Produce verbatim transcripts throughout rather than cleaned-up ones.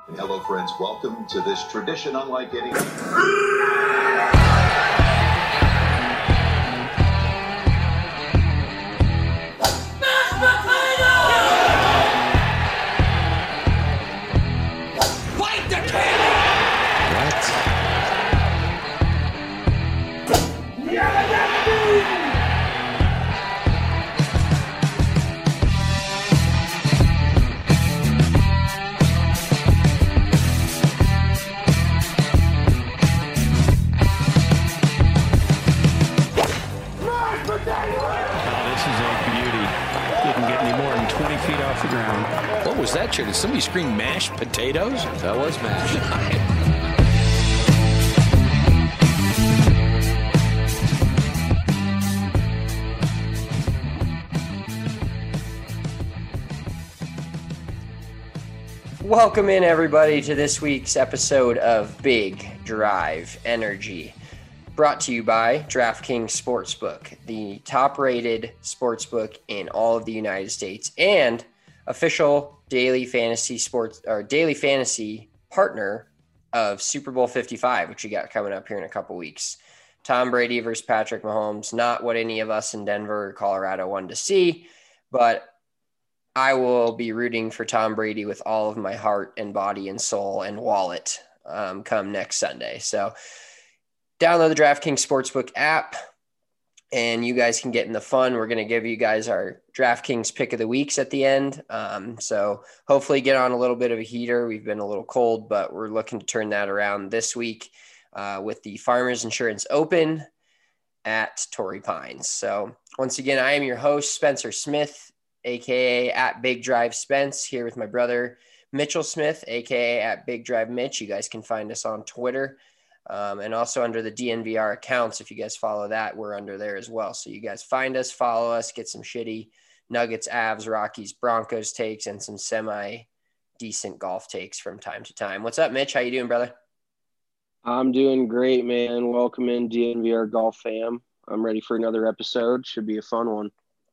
Hello, friends. Welcome to this tradition unlike any. What was that, Chair? Did somebody scream mashed potatoes? That was mashed. Welcome in, everybody, to this week's episode of Big Drive Energy, brought to you by DraftKings Sportsbook, the top-rated sportsbook in all of the United States and official daily fantasy sports or daily fantasy partner of Super Bowl fifty-five, which you got coming up here in a couple weeks. Tom Brady versus Patrick Mahomes, not what any of us in Denver or Colorado wanted to see, but I will be rooting for Tom Brady with all of my heart and body and soul and wallet um, come next Sunday. So download the DraftKings Sportsbook app, and you guys can get in the fun. We're going to give you guys our DraftKings pick of the weeks at the end. Um, so hopefully get on a little bit of a heater. We've been a little cold, but we're looking to turn that around this week uh, with the Farmers Insurance Open at Torrey Pines. So once again, I am your host, Spencer Smith, a k a at Big Drive Spence, here with my brother, Mitchell Smith, a k a at Big Drive Mitch. You guys can find us on Twitter. Um, and also under the D N V R accounts. If you guys follow that, we're under there as well. So you guys find us, follow us, get some shitty Nuggets, Avs, Rockies, Broncos takes, and some semi-decent golf takes from time to time. What's up, Mitch? How you doing, brother? I'm doing great, man. Welcome in, D N V R Golf fam. I'm ready for another episode. Should be a fun one.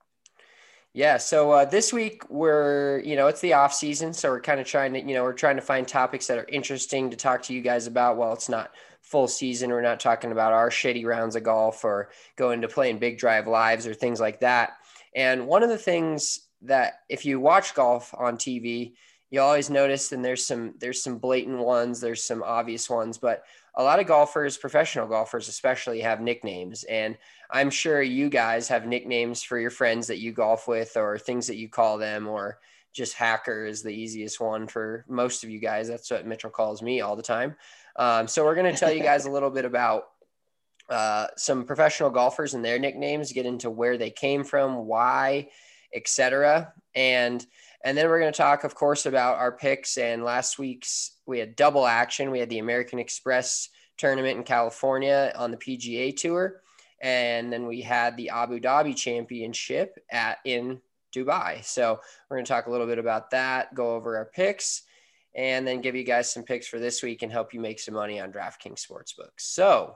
Yeah, so uh, this week we're, you know, it's the off season, so we're kind of trying to, you know, we're trying to find topics that are interesting to talk to you guys about while it's not full season. We're not talking about our shitty rounds of golf or going to playing Big Drive Lives or things like that. And one of the things that if you watch golf on T V, you always notice, and there's some there's some blatant ones, there's some obvious ones, but a lot of golfers, professional golfers especially, have nicknames. And I'm sure you guys have nicknames for your friends that you golf with or things that you call them, or just Hacker is the easiest one for most of you guys. That's what Mitchell calls me all the time. Um, so we're going to tell you guys a little bit about uh, some professional golfers and their nicknames, get into where they came from, why, et cetera. And And then we're going to talk, of course, about our picks. And last week's, we had double action. We had the American Express tournament in California on the P G A Tour. And then we had the Abu Dhabi Championship at in Dubai. So we're going to talk a little bit about that, go over our picks, and then give you guys some picks for this week and help you make some money on DraftKings Sportsbook. So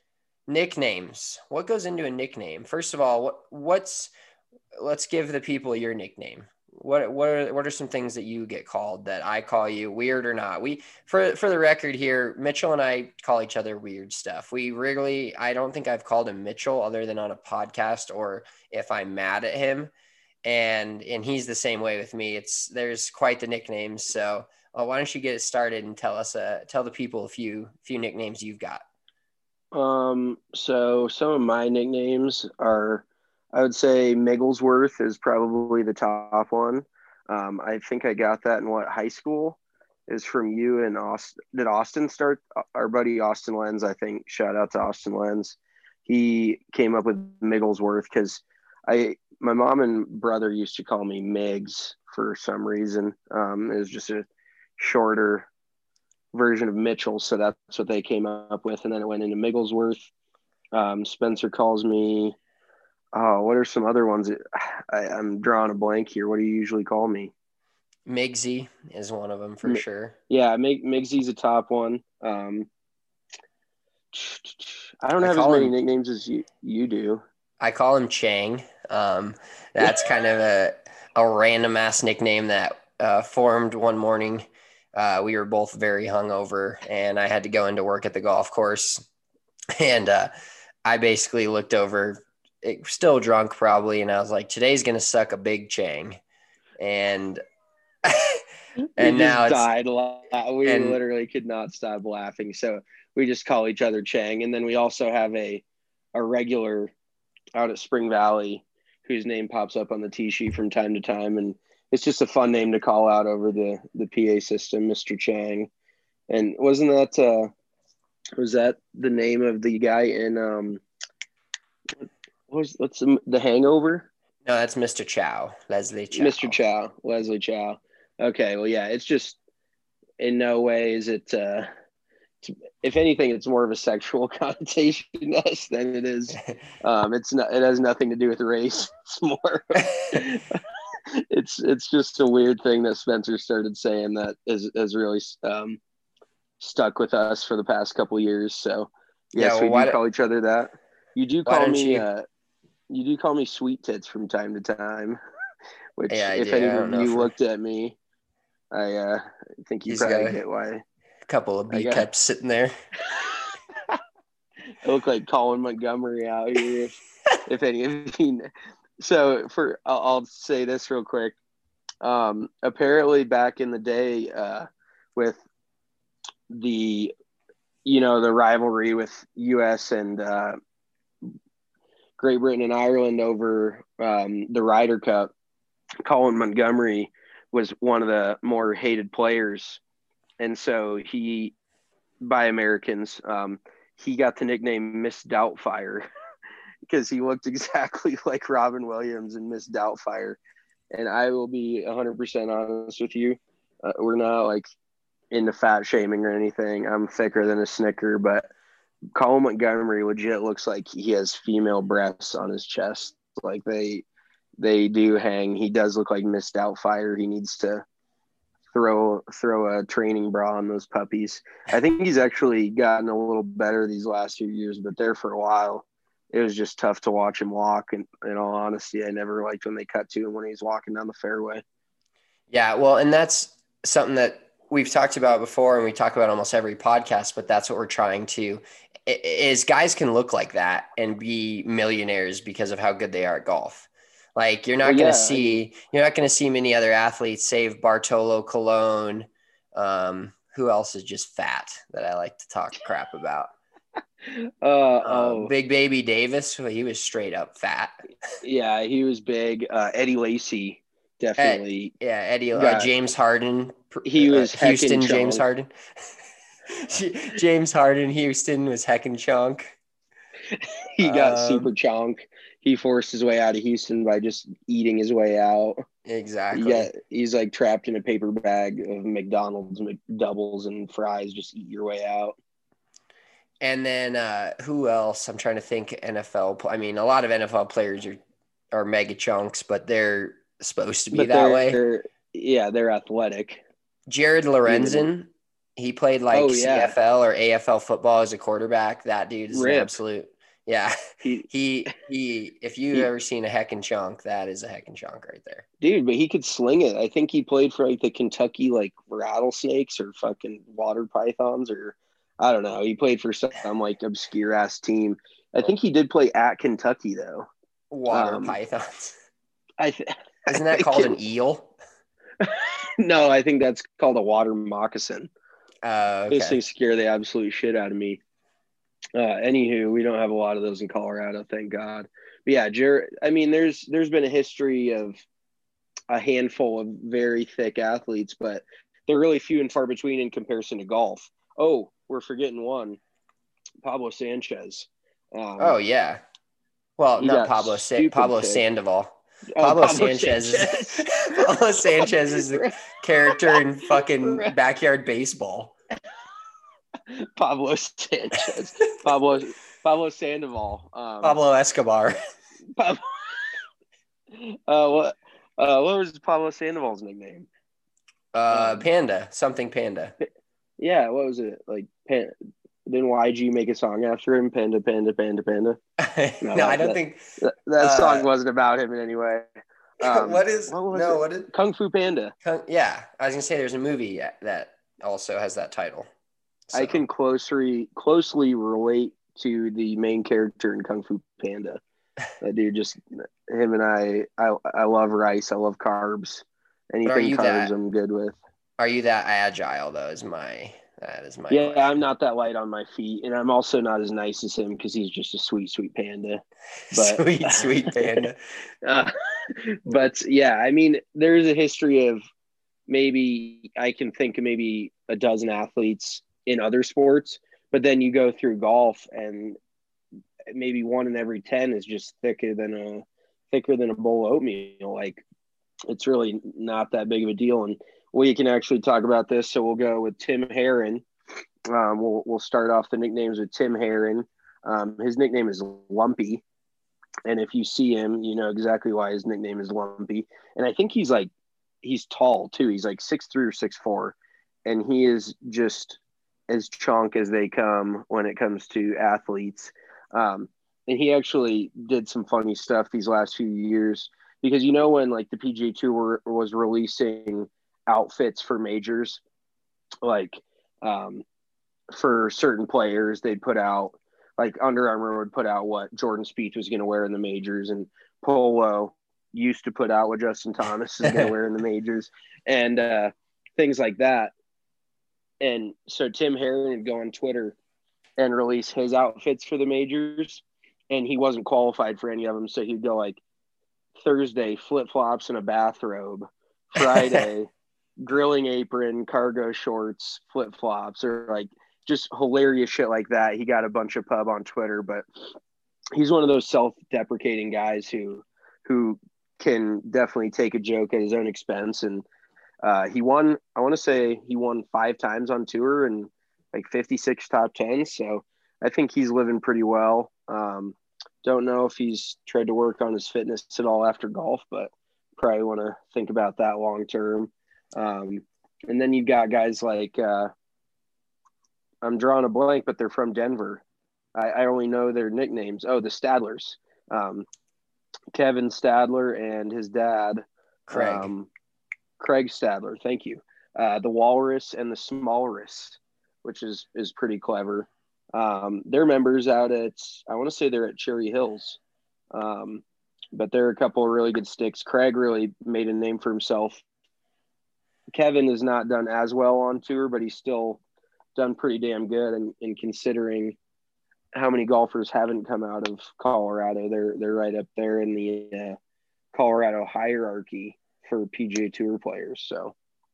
nicknames. What goes into a nickname? First of all, what what's let's give the people your nickname. What what are what are some things that you get called that I call you, weird or not? We for for the record here, Mitchell and I call each other weird stuff. We regularly, I don't think I've called him Mitchell other than on a podcast or if I'm mad at him, and and he's the same way with me. It's there's quite the nicknames. So uh, why don't you get it started and tell us uh tell the people a few few nicknames you've got. Um, so some of my nicknames are, I would say Migglesworth is probably the top one. Um, I think I got that in what high school is from you and Austin. Did Austin start? Our buddy Austin Lenz, I think. Shout out to Austin Lenz. He came up with Migglesworth because I, my mom and brother used to call me Miggs for some reason. Um, it was just a shorter version of Mitchell, so that's what they came up with, and then it went into Migglesworth. Um, Spencer calls me. Oh, what are some other ones? I, I'm drawing a blank here. What do you usually call me? Migsy is one of them for M- sure. Yeah, Mig- Migsy's a top one. Um, I don't I have as many him, nicknames as you, you do. I call him Chang. Um, that's kind of a, a random ass nickname that uh, formed one morning uh, we were both very hungover, and I had to go into work at the golf course. And uh, I basically looked over, it, still drunk probably, and I was like, today's going to suck a big chang. And and we now just it's died. la- We and literally could not stop laughing. So we just call each other Chang. And then we also have a a regular out at Spring Valley whose name pops up on the tee sheet from time to time. And it's just a fun name to call out over the, the P A system, Mister Chang. And wasn't that uh, was that the name of the guy in um what was what's the, the Hangover? no, that's Mister Chow, Leslie Chow. Mister Chow, Leslie Chow. Okay, well, yeah, it's just in no way is it. Uh, if anything, it's more of a sexual connotation to us than it is. Um, it's not. It has nothing to do with race. It's more. it's it's just a weird thing that Spencer started saying that is has really um, stuck with us for the past couple years. So yes, Yeah, well, we do do, call each other that. You do why call don't me. you? Uh, you do call me Sweet Tits from time to time. Which, Yeah, I if do. any I don't of know you for- looked at me, I uh, think you He's probably got a- get why. A couple of I B got- cups sitting there. I look like Colin Montgomery out here, if, if any of you. Know. So for I'll, I'll say this real quick. Um, apparently, back in the day, uh, with the you know the rivalry with U S and uh, Great Britain and Ireland over um, the Ryder Cup, Colin Montgomery was one of the more hated players. And so he, by Americans, um, he got the nickname Miss Doubtfire because he looked exactly like Robin Williams and Miss Doubtfire. And I will be one hundred percent honest with you. Uh, we're not like into fat shaming or anything. I'm thicker than a Snicker, but Colin Montgomery legit looks like he has female breasts on his chest. Like they, they do hang. He does look like Miss Doubtfire. He needs to throw throw a training bra on those puppies. I think he's actually gotten a little better these last few years, but there for a while, it was just tough to watch him walk. And in all honesty, I never liked when they cut to him when he was walking down the fairway. Yeah, well, and that's something that we've talked about before, and we talk about almost every podcast, but that's what we're trying to is guys can look like that and be millionaires because of how good they are at golf. Like you're not Well, going yeah, to see, I mean, you're not going to see many other athletes save Bartolo Colon. Um, who else is just fat that I like to talk crap about? Uh, Uh, oh, Big Baby Davis. Well, he was straight up fat. yeah, he was big. Uh, Eddie Lacy, definitely. Yeah. Eddie, uh, got- James Harden. He was uh, Houston, heckin' James chunk. Harden. James Harden, Houston was heckin' chunk. He got Um, super chonk. He forced his way out of Houston by just eating his way out. Exactly. Yeah, he's like trapped in a paper bag of McDonald's McDoubles and fries. Just eat your way out. And then uh, who else? I'm trying to think. N F L. I mean, a lot of N F L players are are mega chunks, but they're supposed to be But that way. they're- Yeah, they're athletic. Jared Lorenzen, he played like Oh, yeah. C F L or A F L football as a quarterback. That dude is an Rip. absolute. Yeah, He, he he. If you've He- ever seen a heckin' chunk, that is a heckin' chunk right there. dude, but he could sling it. I think he played for like the Kentucky like rattlesnakes or fucking water pythons or I don't know. He played for some like obscure ass team. I think he did play at Kentucky though. Water Um, pythons. I th- Isn't that called an eel? No, I think that's called a water moccasin. Uh, Those okay. things scare the absolute shit out of me. Uh, anywho, we don't have a lot of those in Colorado, thank God. But yeah, Jared, I mean, there's there's been a history of a handful of very thick athletes, but they're really few and far between in comparison to golf. Oh, we're forgetting one, Pablo Sanchez. Um, Oh yeah. Well, He not got Pablo. Sa- stupid Pablo thick. Sandoval. oh, Pablo, Sanchez. Sanchez. Is, Pablo Sanchez is the character in fucking Backyard Baseball. Pablo Sanchez. Pablo Pablo Sandoval. Um, Pablo Escobar. Pablo. Uh, what? Uh, what was Pablo Sandoval's nickname? Uh, Um, Panda. Something Panda. Yeah, what was it? Like, Pan- didn't Y G make a song after him? Panda, Panda, Panda, Panda. no, that- I don't that- think. That, that Uh, song wasn't about him in any way. Um, what is what was no? it? What did? Kung Fu Panda. Yeah, I was gonna say there's a movie that also has that title. So. I can closely closely relate to the main character in Kung Fu Panda. That dude, just him and I, I, I love rice. I love carbs. Anything carbs, that, I'm good with. Are you that agile though? Is my that is my yeah. question. I'm not that light on my feet, and I'm also not as nice as him because he's just a sweet, sweet panda. But, sweet, sweet panda. uh, but yeah, I mean, there's a history of maybe I can think of maybe a dozen athletes in other sports, but then you go through golf and maybe one in every ten is just thicker than a thicker than a bowl of oatmeal. Like, it's really not that big of a deal. And we can actually talk about this. So we'll go with Tim Herron. Um, we'll we'll start off the nicknames with Tim Herron. Um, his nickname is Lumpy, and if you see him, you know exactly why his nickname is Lumpy. And I think he's like he's tall too. He's like six three or six four, and he is just as chunk as they come when it comes to athletes. Um, and he actually did some funny stuff these last few years because, you know, when like the P G A Tour was releasing outfits for majors, like um, for certain players, they'd put out like Under Armour would put out what Jordan Spieth was going to wear in the majors, and Polo used to put out what Justin Thomas is going to wear in the majors, and uh, things like that. And so Tim Herron would go on Twitter and release his outfits for the majors, and he wasn't qualified for any of them. So he'd go like Thursday, flip-flops and a bathrobe, Friday, grilling apron, cargo shorts, flip-flops, or like just hilarious shit like that. He got a bunch of pub on Twitter, but he's one of those self-deprecating guys who who can definitely take a joke at his own expense. And uh, he won, I want to say he won five times on tour and like fifty-six top tens. So I think he's living pretty well. Um, don't know if he's tried to work on his fitness at all after golf, but probably want to think about that long term. Um, and then you've got guys like, uh, I'm drawing a blank, but they're from Denver. I, I only know their nicknames. Oh, the Stadlers. Um, Kevin Stadler and his dad, Craig. Um, Craig Stadler. Thank you. Uh, the Walrus and the Smallrus, which is is pretty clever. Um, they're members out at, I want to say they're at Cherry Hills, um, but they're a couple of really good sticks. Craig really made a name for himself. Kevin has not done as well on tour, but he's still done pretty damn good. And, and considering how many golfers haven't come out of Colorado, they're they're right up there in the uh, Colorado hierarchy for P G A Tour players. So.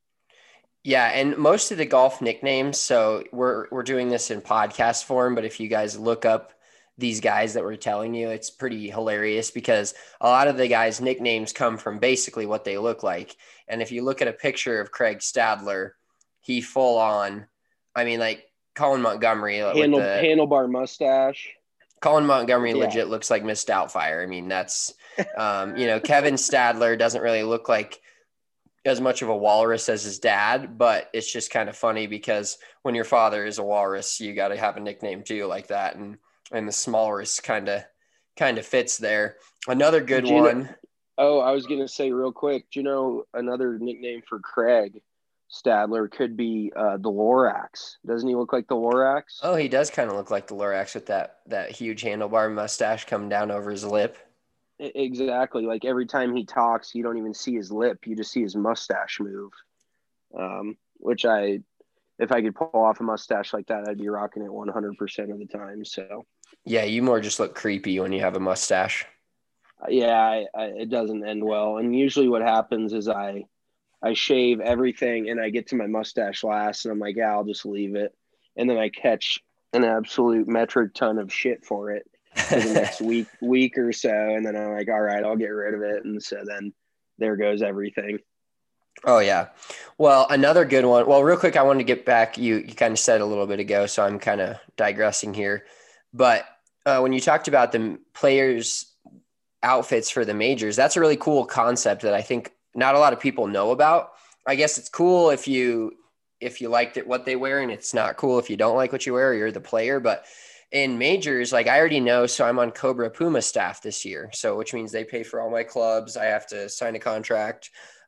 Yeah, and most of the golf nicknames, so we're we're doing this in podcast form, but if you guys look up these guys that we're telling you, it's pretty hilarious because a lot of the guys' nicknames come from basically what they look like. And if you look at a picture of Craig Stadler, he full on, I mean, like Colin Montgomery. Handle, with the, handlebar mustache. Colin Montgomery yeah. legit looks like Miss Doubtfire. I mean, that's, um, you know, Kevin Stadler doesn't really look like as much of a walrus as his dad, but it's just kind of funny because when your father is a walrus, you got to have a nickname too, like that. And, and the Smallrus kind of, kind of fits there. Another good you one. Know, oh, I was going to say real quick, do you know another nickname for Craig Stadler could be uh, the Lorax? Doesn't he look like the Lorax? Oh, he does kind of look like the Lorax with that, that huge handlebar mustache coming down over his lip. Exactly. Like every time he talks, you don't even see his lip. You just see his mustache move, um, which I, if I could pull off a mustache like that, I'd be rocking it one hundred percent of the time. So, yeah, you more just look creepy when you have a mustache. Yeah, I, I, it doesn't end well. And usually what happens is I, I shave everything and I get to my mustache last and I'm like, yeah, I'll just leave it. And then I catch an absolute metric ton of shit for it for the next week, week or so. And then I'm like, all right, I'll get rid of it. And so then there goes everything. Oh yeah. Well, another good one. Well, real quick, I wanted to get back. You, you kind of said a little bit ago, so I'm kind of digressing here, but uh, when you talked about the players' outfits for the majors, that's a really cool concept that I think not a lot of people know about. I guess it's cool if you, if you liked it, what they wear, and it's not cool if you don't like what you wear or you're the player. But in majors, like I already know, so I'm on Cobra Puma staff this year. So, which means they pay for all my clubs. I have to sign a contract.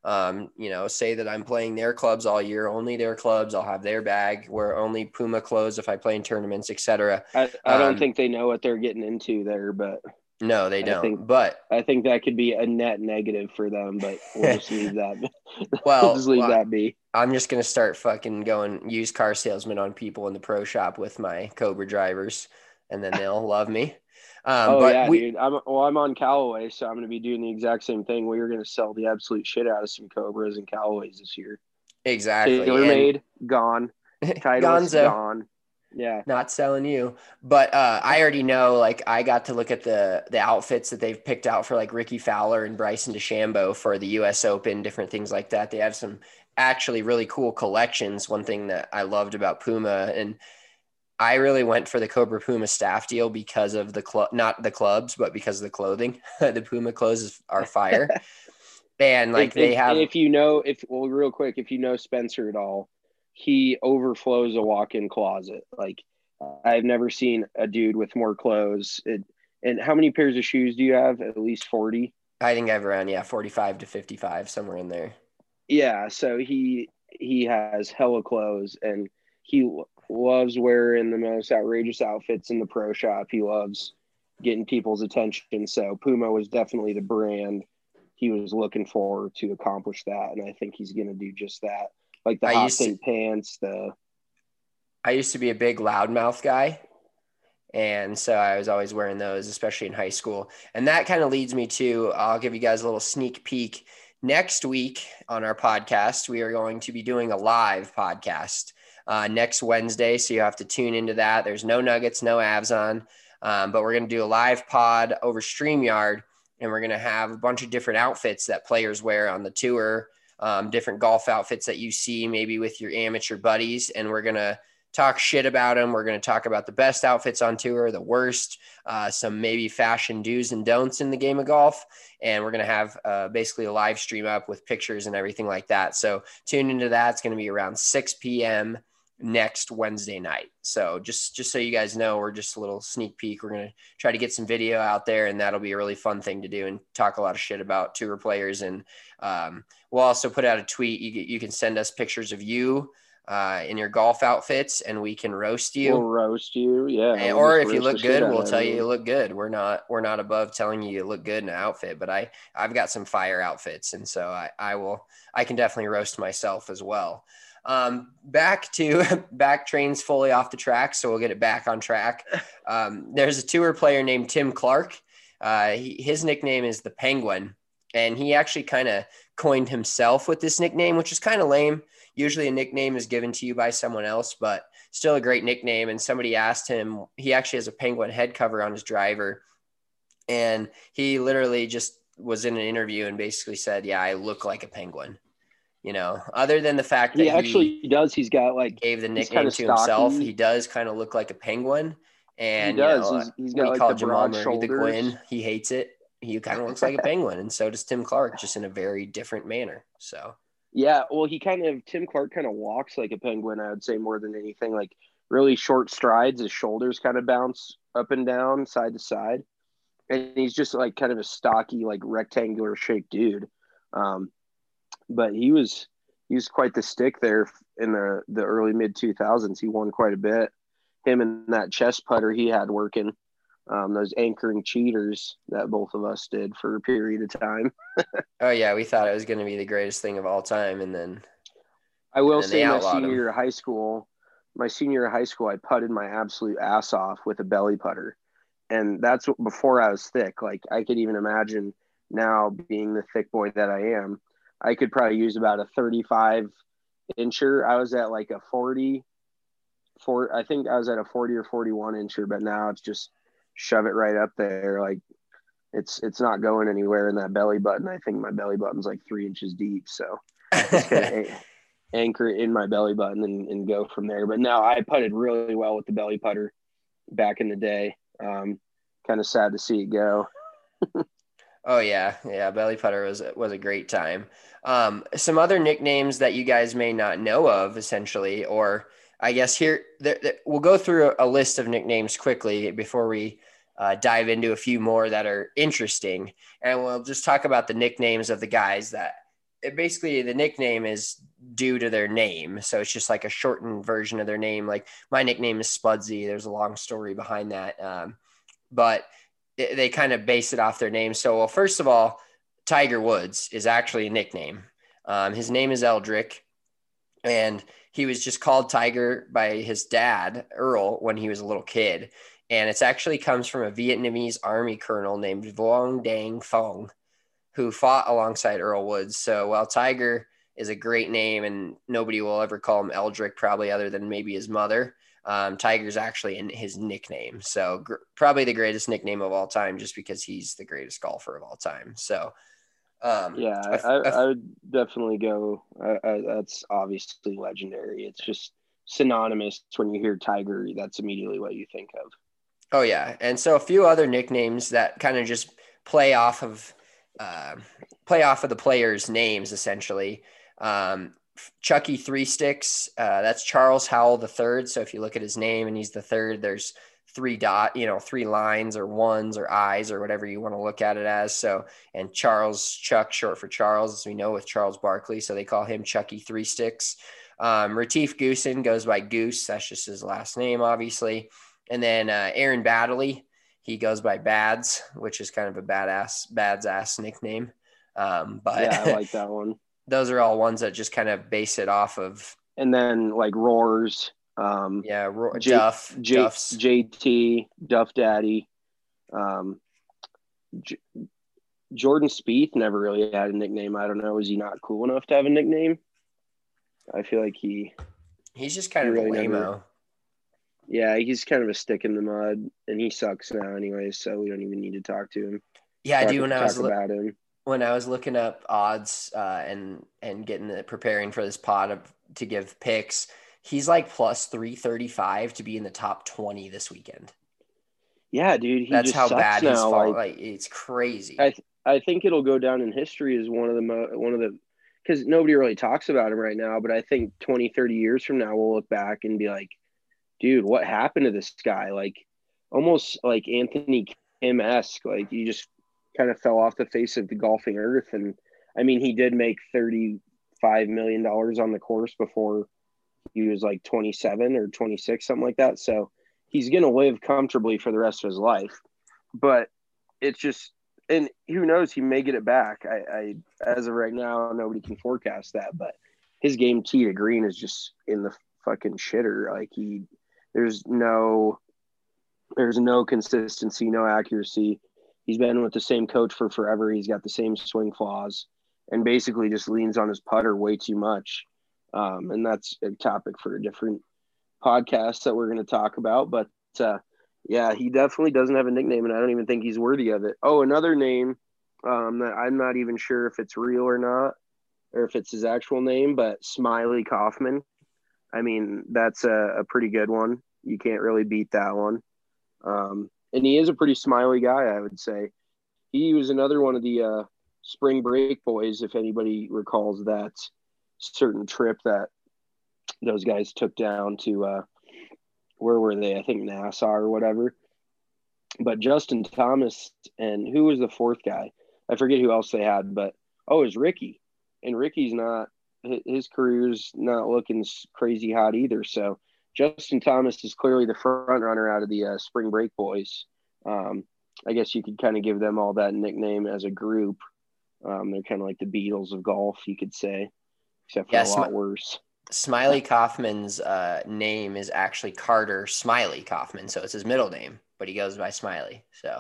Um, you know, say that I'm playing their clubs all year, only their clubs. I'll have their bag. We're only Puma clothes if I play in tournaments, et cetera. I, I don't Um, think they know what they're getting into there, but no, they I don't. think But I think that could be a net negative for them. But we'll just leave that. well, we'll just leave well, that be. I'm just gonna start fucking going used car salesman on people in the pro shop with my Cobra drivers, and then they'll love me. Um, Oh but yeah, we, dude. I'm well. I'm on Callaway, so I'm going to be doing the exact same thing. We are going to sell the absolute shit out of some Cobras and Callaways this year. exactly. TaylorMade gone. Titleist Gonzo. gone. Yeah. Not selling you, but uh, I already know. Like, I got to look at the the outfits that they've picked out for like Ricky Fowler and Bryson DeChambeau for the U S Open, different things like that. They have some actually really cool collections. One thing that I loved about Puma, and I really went for the Cobra Puma staff deal because of the club, not the clubs, but because of the clothing. The Puma clothes are fire, and like if, they if, have. If you know, if well, real quick, if you know Spencer at all, he overflows a walk-in closet. Like I've never seen a dude with more clothes. It, and how many pairs of shoes do you have? At least forty. I think I have around yeah forty-five to fifty-five, somewhere in there. Yeah, so he he has hella clothes, and he loves wearing the most outrageous outfits in the pro shop. He loves getting people's attention. So Puma was definitely the brand he was looking for to accomplish that, and I think he's going to do just that. Like the I hot used to- pink pants, the I used to be a big loudmouth guy. And so I was always wearing those, especially in high school. And that kind of leads me to, I'll give you guys a little sneak peek. Next week on our podcast, we are going to be doing a live podcast uh, next Wednesday. So you have to tune into that. There's no Nuggets, no Avs on, um, but we're going to do a live pod over StreamYard. And we're going to have a bunch of different outfits that players wear on the tour, um, different golf outfits that you see maybe with your amateur buddies. And we're going to talk shit about them. We're going to talk about the best outfits on tour, the worst, uh, some maybe fashion do's and don'ts in the game of golf. And we're going to have uh, basically a live stream up with pictures and everything like that. So tune into that. It's going to be around six p.m. next Wednesday night. So just, just so you guys know, we're just a little sneak peek. We're going to try to get some video out there, and that'll be a really fun thing to do and talk a lot of shit about tour players. And um, we'll also put out a tweet. You, you can send us pictures of you uh, in your golf outfits, and we can roast you. We'll roast you, yeah. And, we'll or if you roast look the shit good, out we'll of tell you everyone. you look good. We're not we're not above telling you you look good in an outfit, but I I've got some fire outfits, and so I I will I can definitely roast myself as well. Um, back to back trains fully off the track, so we'll get it back on track. Um, there's a tour player named Tim Clark. Uh, he, his nickname is the Penguin, and he actually kind of coined himself with this nickname, which is kind of lame. Usually a nickname is given to you by someone else, but still a great nickname. And somebody asked him, he actually has a penguin head cover on his driver. And he literally just was in an interview and basically said, yeah, I look like a penguin. You know, other than the fact that He actually he does. He's got like gave the he's nickname kinda to himself, stocky. he does kind of look like a penguin. And He does. you know, He's- he's we got, like, call the Jamal broad Murray the shoulders. Gwyn. He hates it. He kind of looks like a penguin, and so does Tim Clark, just in a very different manner. So. Yeah, well, he kind of Tim Clark kind of walks like a penguin. I would say more than anything, like really short strides. His shoulders kind of bounce up and down, side to side, and he's just like kind of a stocky, like rectangular shaped dude. Um, but he was he was quite the stick there in the the early mid two thousands. He won quite a bit. Him and that chest putter he had working. Um, those anchoring cheaters that both of us did for a period of time. Oh yeah, we thought it was going to be the greatest thing of all time, and then I will and they say my outlawed senior him. year of high school, my senior year of high school, I putted my absolute ass off with a belly putter, and that's what, before I was thick. Like I could even imagine now being the thick boy that I am, I could probably use about a thirty-five incher. I was at like a forty, four. I think I was at a forty or forty-one incher, but now it's just shove it right up there. Like it's it's not going anywhere in that belly button. I think my belly button's like three inches deep, so just gonna a- anchor it in my belly button and, and go from there. But no, I putted really well with the belly putter back in the day. Um, kind of sad to see it go. Oh yeah, yeah. Belly putter was was a great time. Um, some other nicknames that you guys may not know of, essentially, or I guess here there, there, we'll go through a, a list of nicknames quickly before we uh, dive into a few more that are interesting, and we'll just talk about the nicknames of the guys that it basically the nickname is due to their name. So it's just like a shortened version of their name. Like my nickname is Spudsy. There's a long story behind that. Um, but it, they kind of base it off their name. So, well, first of all, Tiger Woods is actually a nickname. Um, his name is Eldrick, and he was just called Tiger by his dad, Earl, when he was a little kid. And it's actually comes from a Vietnamese army colonel named Vuong Dang Phong, who fought alongside Earl Woods. So while Tiger is a great name and nobody will ever call him Eldrick, probably other than maybe his mother, um, Tiger's actually in his nickname. So gr- probably the greatest nickname of all time, just because he's the greatest golfer of all time. So um, yeah, I, I, I would definitely go. I, I, that's obviously legendary. It's just synonymous when you hear Tiger. That's immediately what you think of. Oh yeah. And so a few other nicknames that kind of just play off of, uh, play off of the players' names, essentially. Um, Chucky Three Sticks, uh, that's Charles Howell the third. So if you look at his name and he's the third, there's three dot, you know, three lines or ones or eyes or whatever you want to look at it as. So, and Charles Chuck, short for Charles, as we know with Charles Barkley. So they call him Chucky Three Sticks. Um, Retief Goosen goes by Goose. That's just his last name, obviously. And then uh, Aaron Baddeley, he goes by Bads, which is kind of a badass, Bads ass nickname. Um, but yeah, I like that one. Those are all ones that just kind of base it off of. And then like Roars. Um, yeah, Ro- J- Duff, J- Duff's. J T, Duff Daddy. Um, J- Jordan Spieth never really had a nickname. I don't know. Is he not cool enough to have a nickname? I feel like he. He's just kind he of really a lame-o. never, Yeah, he's kind of a stick in the mud, and he sucks now anyway, so we don't even need to talk to him. Yeah, talk, I do. When I was talk lo- about him. when I was looking up odds uh, and and getting the, preparing for this pod of, to give picks, he's like plus three thirty-five to be in the top twenty this weekend. Yeah, dude, he That's just how sucks bad now. he's fall. Like, Like it's crazy. I th- I think it'll go down in history as one of the mo- one of the because nobody really talks about him right now. But I think twenty, thirty years from now, we'll look back and be like, dude, what happened to this guy? Like almost like Anthony Kim-esque. Like he just kind of fell off the face of the golfing earth. And I mean, he did make thirty-five million dollars on the course before he was like twenty-seven or twenty-six, something like that. So he's going to live comfortably for the rest of his life. But it's just, and who knows, he may get it back. I, I as of right now, nobody can forecast that, but his game tee to green is just in the fucking shitter. Like he, there's no, there's no consistency, no accuracy. He's been with the same coach for forever. He's got the same swing flaws and basically just leans on his putter way too much. Um, and that's a topic for a different podcast that we're going to talk about. But uh, yeah, he definitely doesn't have a nickname, and I don't even think he's worthy of it. Oh, another name um, that I'm not even sure if it's real or not, or if it's his actual name, but Smiley Kaufman. I mean, that's a, a pretty good one. You can't really beat that one. Um, and he is a pretty smiley guy, I would say. He was another one of the uh, spring break boys, if anybody recalls that certain trip that those guys took down to, uh, where were they? I think Nassau or whatever. But Justin Thomas and who was the fourth guy? I forget who else they had, but, oh, it was Ricky. And Ricky's not, his career's not looking crazy hot either. So Justin Thomas is clearly the front runner out of the uh, spring break boys. Um, I guess you could kind of give them all that nickname as a group. Um, they're kind of like the Beatles of golf, you could say, except for Yeah, a lot Sm- worse. Smiley Kaufman's uh, name is actually Carter Smiley Kaufman, so it's his middle name, but he goes by Smiley. So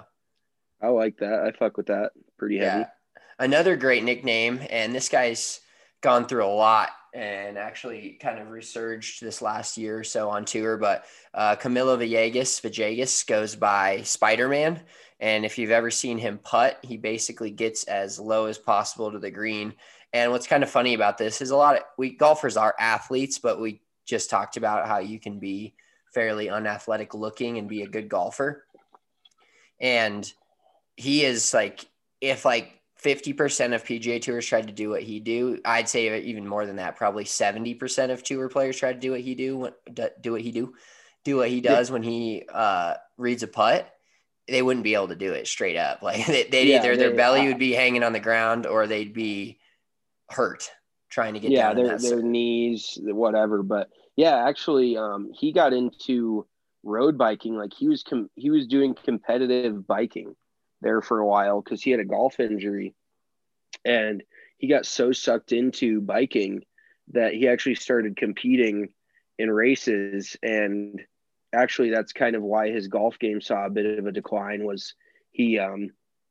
I like that. I fuck with that. Pretty heavy. yeah, another great nickname, and this guy's gone through a lot and actually kind of resurged this last year or so on tour. But uh, Camilo Villegas, Villegas goes by Spider-Man. And if you've ever seen him putt, he basically gets as low as possible to the green. And what's kind of funny about this is a lot of we golfers are athletes, but we just talked about how you can be fairly unathletic looking and be a good golfer. And he is like, if like fifty percent of P G A tours tried to do what he do, I'd say even more than that, probably seventy percent of tour players try to do what he do, do what he do, do what he does when he uh, reads a putt. They wouldn't be able to do it straight up. Like they, they'd Yeah, either their they- belly I- would be hanging on the ground or they'd be hurt trying to get yeah, down in their that their circuit. knees, whatever. But yeah, actually, um, he got into road biking. Like he was com- he was doing competitive biking there for a while because he had a golf injury, and he got so sucked into biking that he actually started competing in races. And actually, that's kind of why his golf game saw a bit of a decline. Was he um,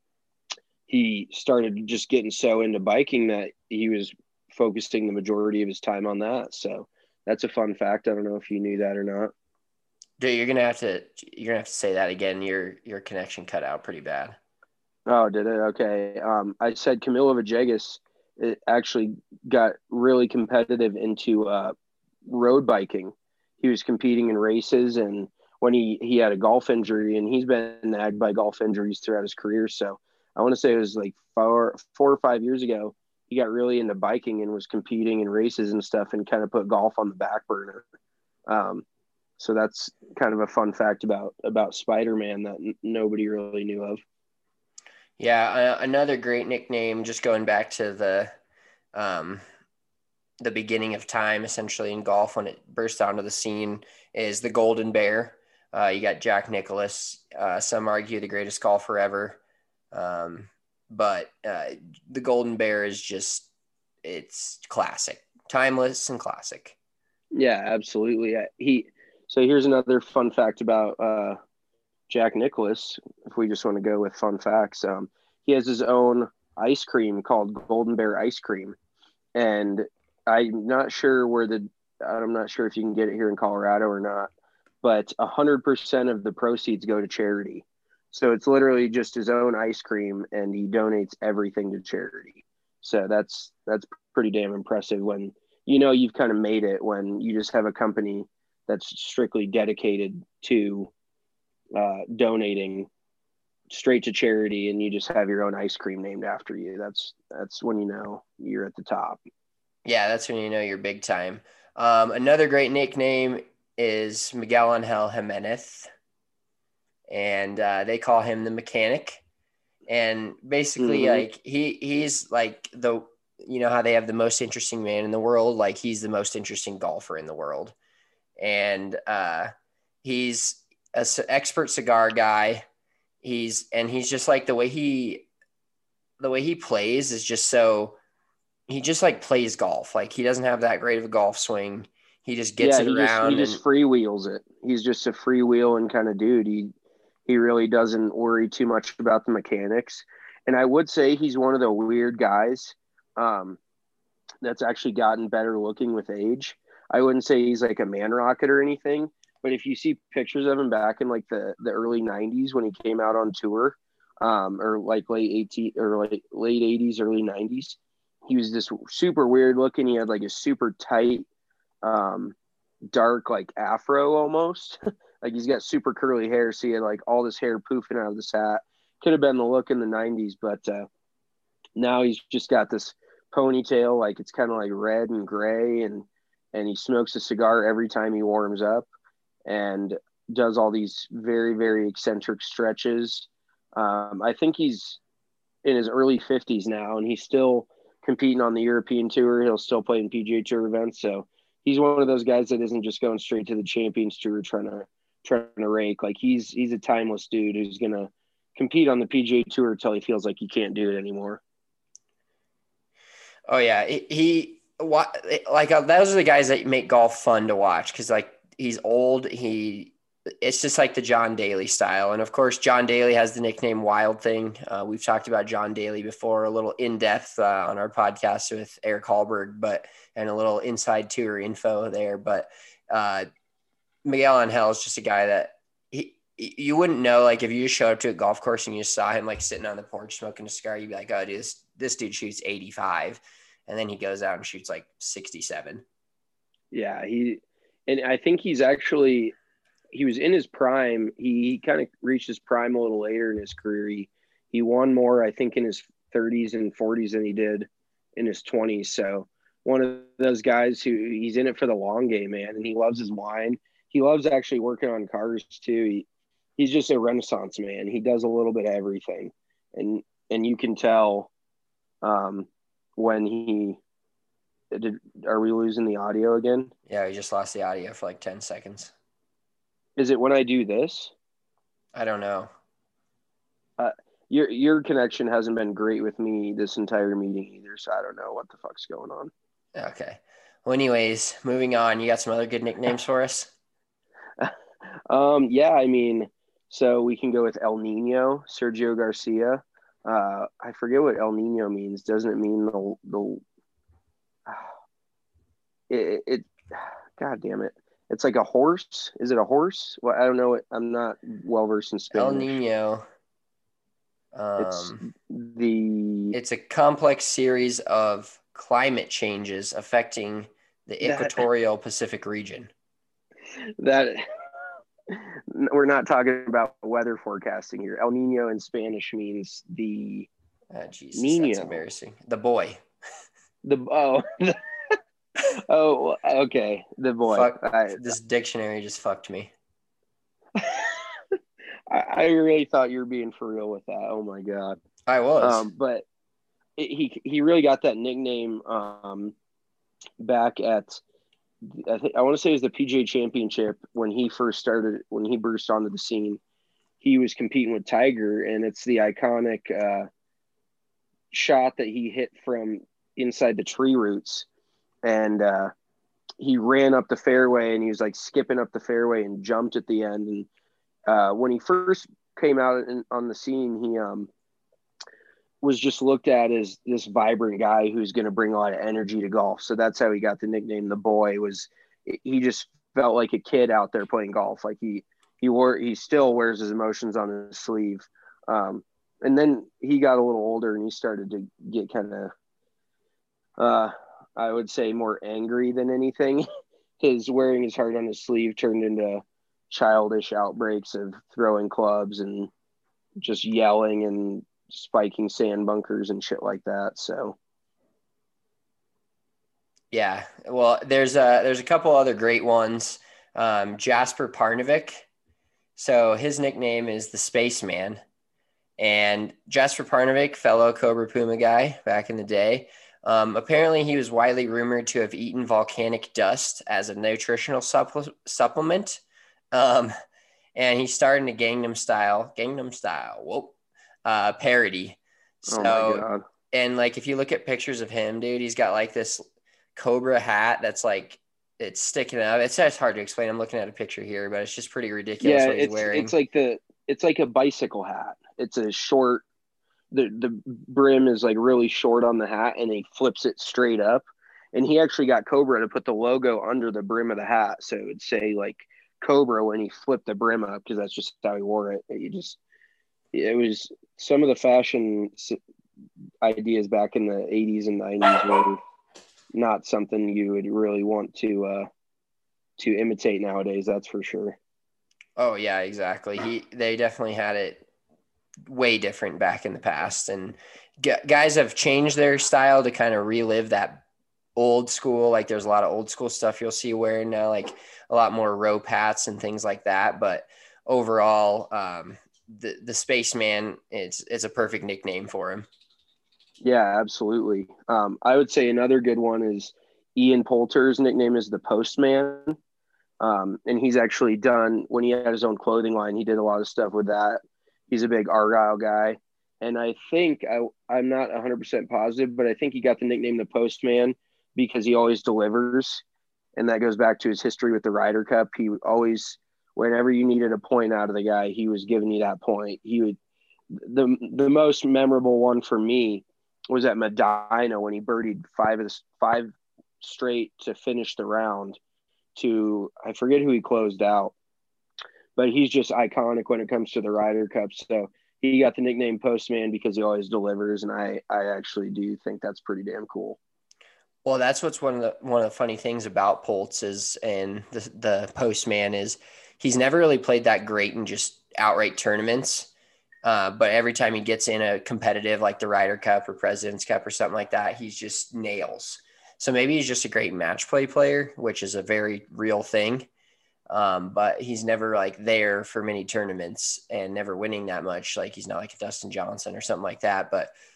he started just getting so into biking that he was focusing the majority of his time on that. So that's a fun fact. I don't know if you knew that or not. Dude, you're gonna have to you're gonna have to say that again. Your your connection cut out pretty bad. Oh, did it? Okay. Um, I said Camilo Villegas it actually got really competitive into uh, road biking. He was competing in races, and when he, he had a golf injury, and he's been nagged by golf injuries throughout his career. So I want to say it was like four, four or five years ago, he got really into biking and was competing in races and stuff and kind of put golf on the back burner. Um, so that's kind of a fun fact about, about Spider-Man that n- nobody really knew of. Yeah, uh, another great nickname. Just going back to the um, the beginning of time, essentially in golf when it burst onto the scene, is the Golden Bear. Uh, you got Jack Nicklaus. Uh, some argue the greatest golfer ever, um, but uh, the Golden Bear is just it's classic, timeless, and classic. Yeah, absolutely. He. So here's another fun fact about uh, Jack Nicklaus. If we just want to go with fun facts, um, he has his own ice cream called Golden Bear ice cream, and I'm not sure where the I'm not sure if you can get it here in Colorado or not, but a hundred percent of the proceeds go to charity. So it's literally just his own ice cream, and he donates everything to charity. So that's that's pretty damn impressive when you know you've kind of made it when you just have a company that's strictly dedicated to uh, donating straight to charity, and you just have your own ice cream named after you. That's that's when you know you're at the top. Yeah, that's when you know you're big time. Um, another great nickname is Miguel Angel Jimenez, and uh, they call him the Mechanic. And basically, Mm-hmm. like he he's like the you know how they have the most interesting man in the world, like he's the most interesting golfer in the world, and uh, he's an expert cigar guy. He's and he's just like the way he the way he plays is just so he just like plays golf. Like he doesn't have that great of a golf swing. He just gets Yeah, it he just he around just and freewheels it. He's just a freewheeling kind of dude. He he really doesn't worry too much about the mechanics. And I would say he's one of the weird guys um, that's actually gotten better looking with age. I wouldn't say he's like a man rocket or anything, but if you see pictures of him back in like the, the early nineties when he came out on tour, um, or like late eighteen or like late eighties, early nineties, he was just super weird looking. He had like a super tight, um, dark like afro almost. Like he's got super curly hair, so he had like all this hair poofing out of this hat. Could have been the look in the nineties, but uh, now he's just got this ponytail, like it's kind of like red and gray, and and he smokes a cigar every time he warms up, and does all these very very eccentric stretches. Um, I think he's in his early fifties now, and he's still competing on the European tour. He'll still play in P G A Tour events, so he's one of those guys that isn't just going straight to the Champions Tour trying to trying to rake. Like he's he's a timeless dude who's gonna compete on the P G A Tour until he feels like he can't do it anymore. oh yeah, he, he like uh, those are the guys that make golf fun to watch because like he's old. He it's just like the John Daly style, and of course John Daly has the nickname Wild Thing. Uh, we've talked about John Daly before, a little in depth uh, on our podcast with Eric Hallberg, but and a little inside tour info there. But uh, Miguel Angel is just a guy that he you wouldn't know, like if you just showed up to a golf course and you just saw him like sitting on the porch smoking a cigar, you'd be like, oh, dude, this, this dude shoots eighty-five. And then he goes out and shoots like sixty-seven. Yeah, he and I think he's actually he was in his prime. He, he kind of reached his prime a little later in his career. He he won more, I think, in his thirties and forties than he did in his twenties. So one of those guys who he's in it for the long game, man, and he loves his wine. He loves actually working on cars too. He, he's just a renaissance man. He does a little bit of everything, and and you can tell um, when he Did, are we losing the audio again? Yeah, we just lost the audio for like ten seconds. Is it when I do this? I don't know. Uh, your your connection hasn't been great with me this entire meeting either, so I don't know what the fuck's going on. Okay. Well, anyways, moving on. You got some other good nicknames for us? um, yeah, I mean, so we can go with El Nino, Sergio Garcia. Uh, I forget what El Nino means. Doesn't it mean the the it, it God damn it. It's like a horse. Is it a horse? Well, I don't know. I'm not well versed in Spanish. El Nino. Um, it's the. It's a complex series of climate changes affecting the that, equatorial Pacific region. That we're not talking about weather forecasting here. El Nino in Spanish means the. Oh, Jesus, Nino. That's embarrassing. The boy. The oh. Oh, okay. The boy. Fuck, I, this dictionary just fucked me. I, I really thought you were being for real with that. Oh my god. I was. Um, but it, he he really got that nickname um, back at I think I want to say it was the P G A Championship when he first started when he burst onto the scene. He was competing with Tiger, and it's the iconic uh, shot that he hit from inside the tree roots. And uh, he ran up the fairway and he was like skipping up the fairway and jumped at the end. And uh, when he first came out in, on the scene, he um, was just looked at as this vibrant guy who's going to bring a lot of energy to golf. So that's how he got the nickname The Boy. Was he just felt like a kid out there playing golf. Like he he wore he still wears his emotions on his sleeve. Um, and then he got a little older and he started to get kind of uh I would say more angry than anything. His wearing his heart on his sleeve turned into childish outbreaks of throwing clubs and just yelling and spiking sand bunkers and shit like that. So, yeah, well, there's a there's a couple other great ones. Um, Jasper Parnevik. So his nickname is the Spaceman, and Jasper Parnevik, fellow Cobra Puma guy back in the day. Um, apparently, he was widely rumored to have eaten volcanic dust as a nutritional supple- supplement. Um, and he starred in a Gangnam Style, Gangnam Style, whoa, uh, parody. So, oh my God. And like, if you look at pictures of him, dude, he's got like this Cobra hat that's like, it's sticking up. It's, it's hard to explain. I'm looking at a picture here, but it's just pretty ridiculous Yeah, what he's it's, wearing. it's like the, it's like a bicycle hat. It's a short, the the brim is like really short on the hat and he flips it straight up. And he actually got Cobra to put the logo under the brim of the hat. So it would say like Cobra when he flipped the brim up, because that's just how he wore it. You just, it was some of the fashion ideas back in the eighties and nineties were not something you would really want to, uh, to imitate nowadays. That's for sure. Oh yeah, exactly. He, they definitely had it way different back in the past, and g- guys have changed their style to kind of relive that old school. Like there's a lot of old school stuff you'll see wearing now, like a lot more rope hats and things like that. But overall, um, the, the Spaceman, it's, it's a perfect nickname for him. Yeah, absolutely. Um, I would say another good one is Ian Poulter's nickname is the Postman. Um, and he's actually done, when he had his own clothing line, he did a lot of stuff with that. He's a big Argyle guy. And I think, I, I'm not one hundred percent positive, but I think he got the nickname the Postman because he always delivers. And that goes back to his history with the Ryder Cup. He always, whenever you needed a point out of the guy, he was giving you that point. He would, the, the most memorable one for me was at Medina when he birdied five of the, five straight to finish the round to, I forget who he closed out. But he's just iconic when it comes to the Ryder Cup. So he got the nickname Postman because he always delivers, and I, I actually do think that's pretty damn cool. Well, that's what's one of the one of the funny things about Poltz is, and the the Postman is, he's never really played that great in just outright tournaments. Uh, but every time he gets in a competitive like the Ryder Cup or President's Cup or something like that, he's just nails. So maybe he's just a great match play player, which is a very real thing. Um, but he's never like there for many tournaments and never winning that much. Like he's not like a Dustin Johnson or something like that. But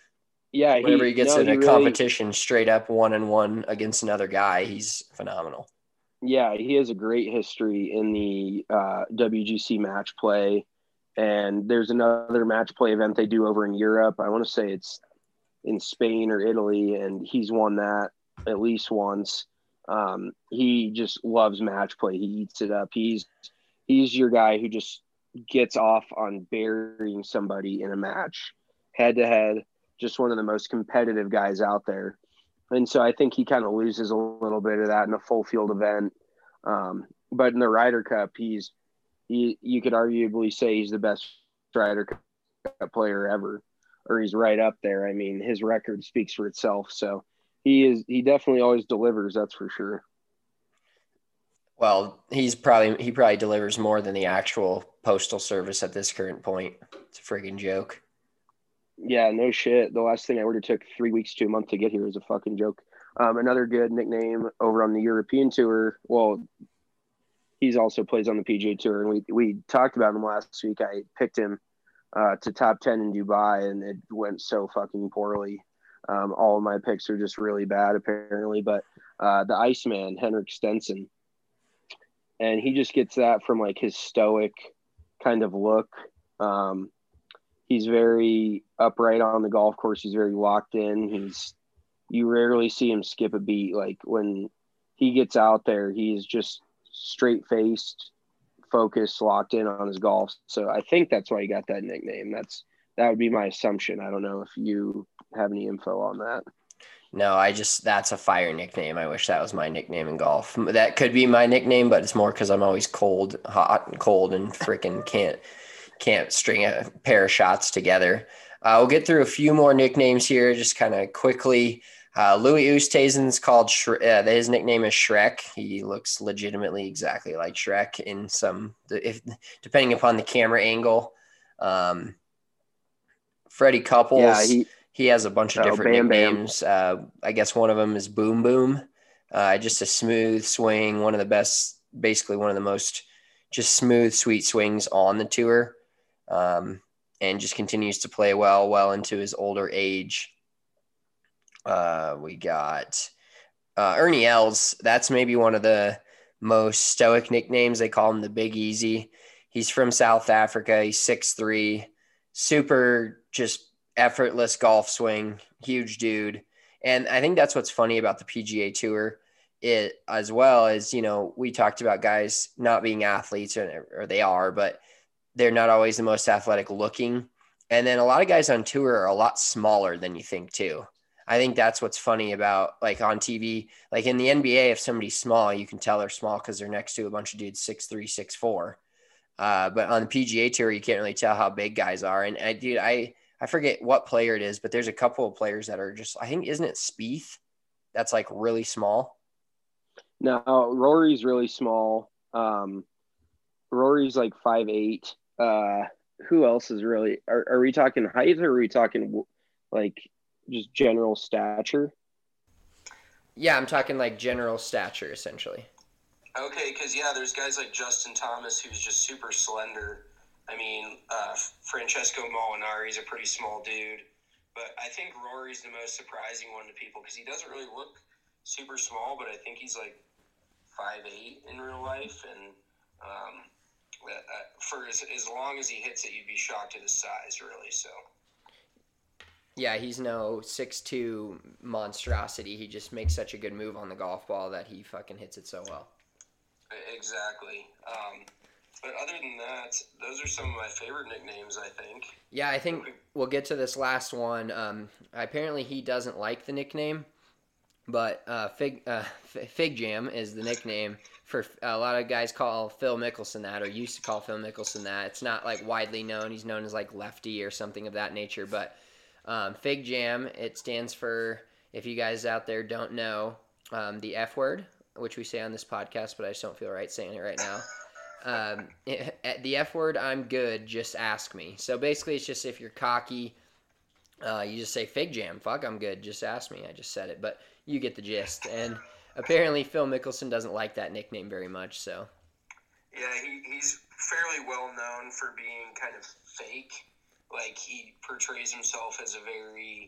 Yeah, Whenever he he gets no, in he a really competition straight up one and one against another guy, he's phenomenal. yeah, he has a great history in the uh, W G C match play. And there's another match play event they do over in Europe. I want to say it's in Spain or Italy, and he's won that at least once. Um, he just loves match play. He eats it up. He's he's your guy who just gets off on burying somebody in a match, head to head. Just one of the most competitive guys out there. And so I think he kind of loses a little bit of that in a full field event. Um, but in the Ryder Cup, he's he you could arguably say he's the best Ryder Cup player ever, or he's right up there. I mean, his record speaks for itself. So he is he definitely always delivers. That's for sure. Well, he's probably he probably delivers more than the actual postal service at this current point. It's a friggin' joke. Yeah, no shit. The last thing I ordered took three weeks to a month to get here is a fucking joke. Um, another good nickname over on the European tour. Well, he's also plays on the P G A Tour, and we we talked about him last week. I picked him uh, to top ten in Dubai, and it went so fucking poorly. Um, all of my picks are just really bad, apparently. But uh, the Iceman, Henrik Stenson, and he just gets that from like his stoic kind of look. Um, he's very upright on the golf course. He's very locked in. He's you rarely see him skip a beat. Like when he gets out there, he's just straight faced, focused, locked in on his golf. So I think that's why he got that nickname. That's that would be my assumption. I don't know if you have any info on that. No, I just that's a fire nickname. I wish that was my nickname in golf. That could be my nickname, but it's more because I'm always cold, hot, and cold, and freaking can't can't string a pair of shots together. Uh, we'll get through a few more nicknames here, just kind of quickly. Uh, Louis Oosthuizen's called Shre- uh, his nickname is Shrek. He looks legitimately exactly like Shrek in some, if depending upon the camera angle. Um, Freddie Couples, Yeah, he he has a bunch of oh, different Bam Bam. nicknames. Uh, I guess one of them is Boom Boom. Uh, just a smooth swing, one of the best, basically one of the most just smooth, sweet swings on the tour, um, and just continues to play well, well into his older age. Uh, we got uh, Ernie Els. That's maybe one of the most stoic nicknames. They call him the Big Easy. He's from South Africa. He's six three, super just effortless golf swing, huge dude. And I think that's what's funny about the P G A Tour it as well as, you know, we talked about guys not being athletes, or, or they are, but they're not always the most athletic looking. And then a lot of guys on tour are a lot smaller than you think too. I think that's what's funny about like on T V, like in the N B A, if somebody's small, you can tell they're small because they're next to a bunch of dudes six three, six four. Uh, but on the P G A Tour, you can't really tell how big guys are. And I, dude, I I forget what player it is, but there's a couple of players that are just, I think, isn't it Spieth? That's like really small. No, Rory's really small. Um, Rory's like five eight. Uh, who else is really? Are, are we talking height, or are we talking like just general stature? Yeah, I'm talking like general stature, essentially. Okay, because, yeah, there's guys like Justin Thomas, who's just super slender. I mean, uh, Francesco Molinari's a pretty small dude. But I think Rory's the most surprising one to people because he doesn't really look super small, but I think he's like five eight in real life. And um, for as, as long as he hits it, you'd be shocked at his size, really, so... Yeah, he's no six two monstrosity. He just makes such a good move on the golf ball that he fucking hits it so well. Exactly. Um, but other than that, those are some of my favorite nicknames, I think. Yeah, I think we'll get to this last one. Um, apparently he doesn't like the nickname, but uh, Fig uh, Fig Jam is the nickname for a lot of guys call Phil Mickelson that, or used to call Phil Mickelson that. It's not like widely known. He's known as like Lefty or something of that nature, but Um, Fig Jam, it stands for, if you guys out there don't know, um, the F word, which we say on this podcast, but I just don't feel right saying it right now. Um, it, the F word, I'm good, just ask me. So basically it's just if you're cocky, uh, you just say Fig Jam, fuck, I'm good, just ask me. I just said it, but you get the gist. And apparently Phil Mickelson doesn't like that nickname very much, so. Yeah, he, he's fairly well known for being kind of fake. Like, he portrays himself as a very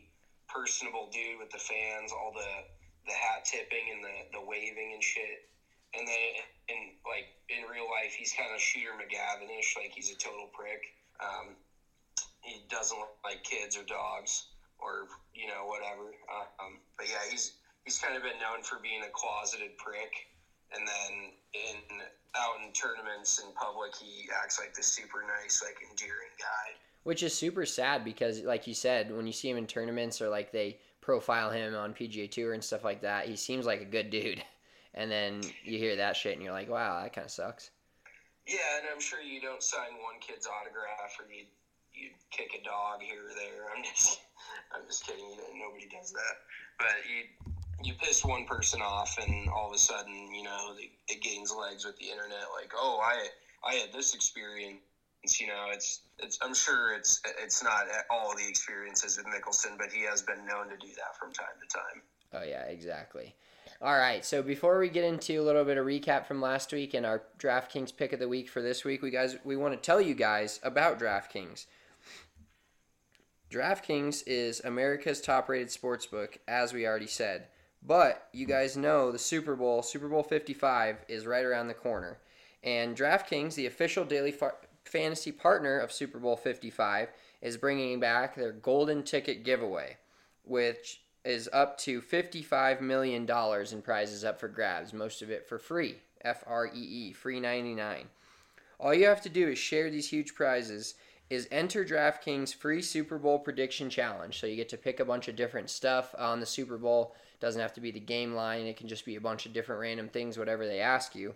personable dude with the fans, all the, the hat tipping and the, the waving and shit. And then, in like in real life, he's kind of Shooter McGavin-ish, like he's a total prick. Um, he doesn't like kids or dogs or you know whatever. Um, but yeah, he's he's kind of been known for being a closeted prick. And then in out in tournaments in public, he acts like this super nice, like endearing guy. Which is super sad because, like you said, when you see him in tournaments or like they profile him on P G A Tour and stuff like that, he seems like a good dude. And then you hear that shit and you're like, wow, that kind of sucks. Yeah, and I'm sure you don't sign one kid's autograph or you you kick a dog here or there. I'm just I'm just kidding. Nobody does that. But you you piss one person off and all of a sudden, you know, it gains legs with the internet. Like, oh, I I had this experience. You know, it's it's. I'm sure it's it's not all the experiences with Mickelson, but he has been known to do that from time to time. Oh yeah, exactly. All right, so before we get into a little bit of recap from last week and our DraftKings pick of the week for this week, we guys we want to tell you guys about DraftKings. DraftKings is America's top-rated sportsbook, as we already said. But you guys know the Super Bowl, Super Bowl fifty-five, is right around the corner, and DraftKings, the official daily Fa- fantasy partner of Super Bowl fifty-five, is bringing back their golden ticket giveaway, which is up to fifty-five million dollars in prizes up for grabs, most of it for free, F R E E, free ninety-nine. All you have to do is share these huge prizes, is enter DraftKings free Super Bowl prediction challenge. So you get to pick a bunch of different stuff on the Super Bowl. It doesn't have to be the game line. It can just be a bunch of different random things, whatever they ask you.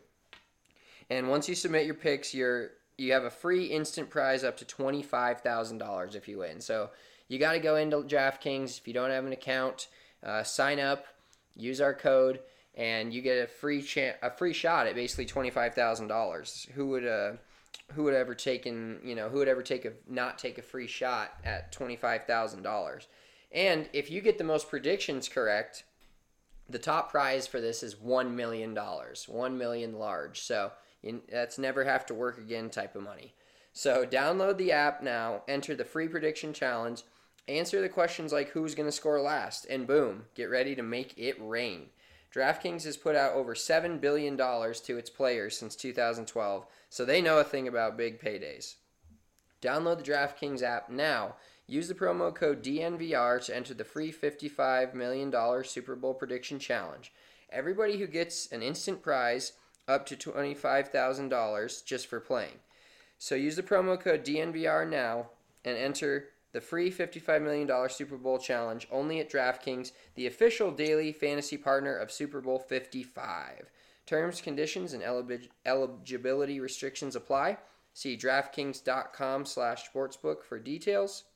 And once you submit your picks, you're you have a free instant prize up to twenty-five thousand dollars if you win. So you got to go into DraftKings. If you don't have an account, uh, sign up, use our code, and you get a free cha- a free shot at basically twenty-five thousand dollars. Who would uh who would ever taken you know who would ever take a not take a free shot at twenty-five thousand dollars? And if you get the most predictions correct, the top prize for this is one million dollars, one million large. So you, that's never have to work again type of money. So download the app now, enter the free prediction challenge, answer the questions like who's going to score last, and boom, get ready to make it rain. DraftKings has put out over seven billion dollars to its players since two thousand twelve, so they know a thing about big paydays. Download the DraftKings app now. Use the promo code D N V R to enter the free fifty-five million dollars Super Bowl prediction challenge. Everybody who gets an instant prize up to twenty-five thousand dollars just for playing. So use the promo code D N V R now and enter the free fifty-five million dollars Super Bowl challenge only at DraftKings, the official daily fantasy partner of Super Bowl fifty-five. Terms, conditions, and elib- eligibility restrictions apply. See DraftKings.com slash sportsbook for details.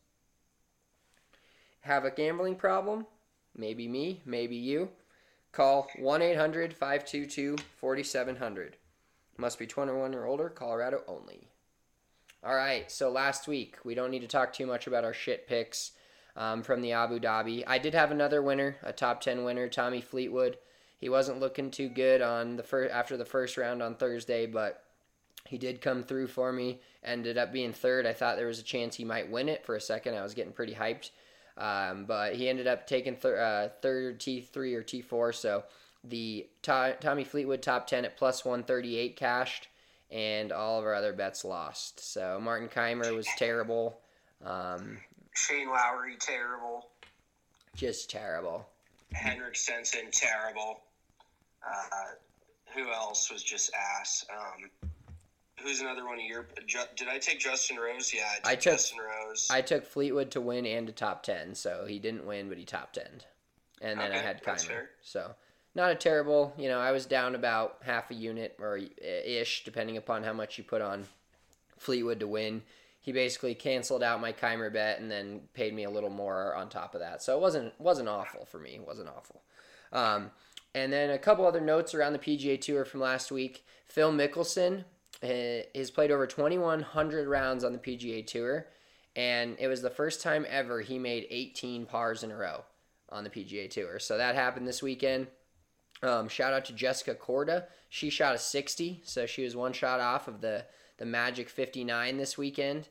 Have a gambling problem? Maybe me, maybe you. Call one eight hundred five two two four seven zero zero. Must be twenty-one or older, Colorado only. All right, so last week, we don't need to talk too much about our shit picks um, from the Abu Dhabi. I did have another winner, a top ten winner, Tommy Fleetwood. He wasn't looking too good on the fir- after the first round on Thursday, but he did come through for me, ended up being third. I thought there was a chance he might win it for a second. I was getting pretty hyped. Um, but he ended up taking th- uh, third T three or T four, so the to- Tommy Fleetwood top ten at plus one thirty-eight cashed, and all of our other bets lost. So Martin Keimer was terrible. Um, Shane Lowry, terrible. Just terrible. Henrik Stenson, terrible. Uh, who else was just ass? Um, who's another one of your... Did I take Justin Rose? Yeah, I took, I took Justin Rose. I took Fleetwood to win and to top ten, so he didn't win, but he top ten. And then Okay, I had that's Keimer. fair. So not a terrible, you know, I was down about half a unit or ish, depending upon how much you put on Fleetwood to win. He basically canceled out my Keimer bet and then paid me a little more on top of that. So it wasn't wasn't awful for me. It wasn't awful. Um, and then a couple other notes around the P G A Tour from last week. Phil Mickelson uh, has played over twenty-one hundred rounds on the P G A Tour, and it was the first time ever he made eighteen pars in a row on the P G A Tour. So that happened this weekend. Um, shout out to Jessica Korda. She shot a sixty, so she was one shot off of the, the magic fifty-nine this weekend.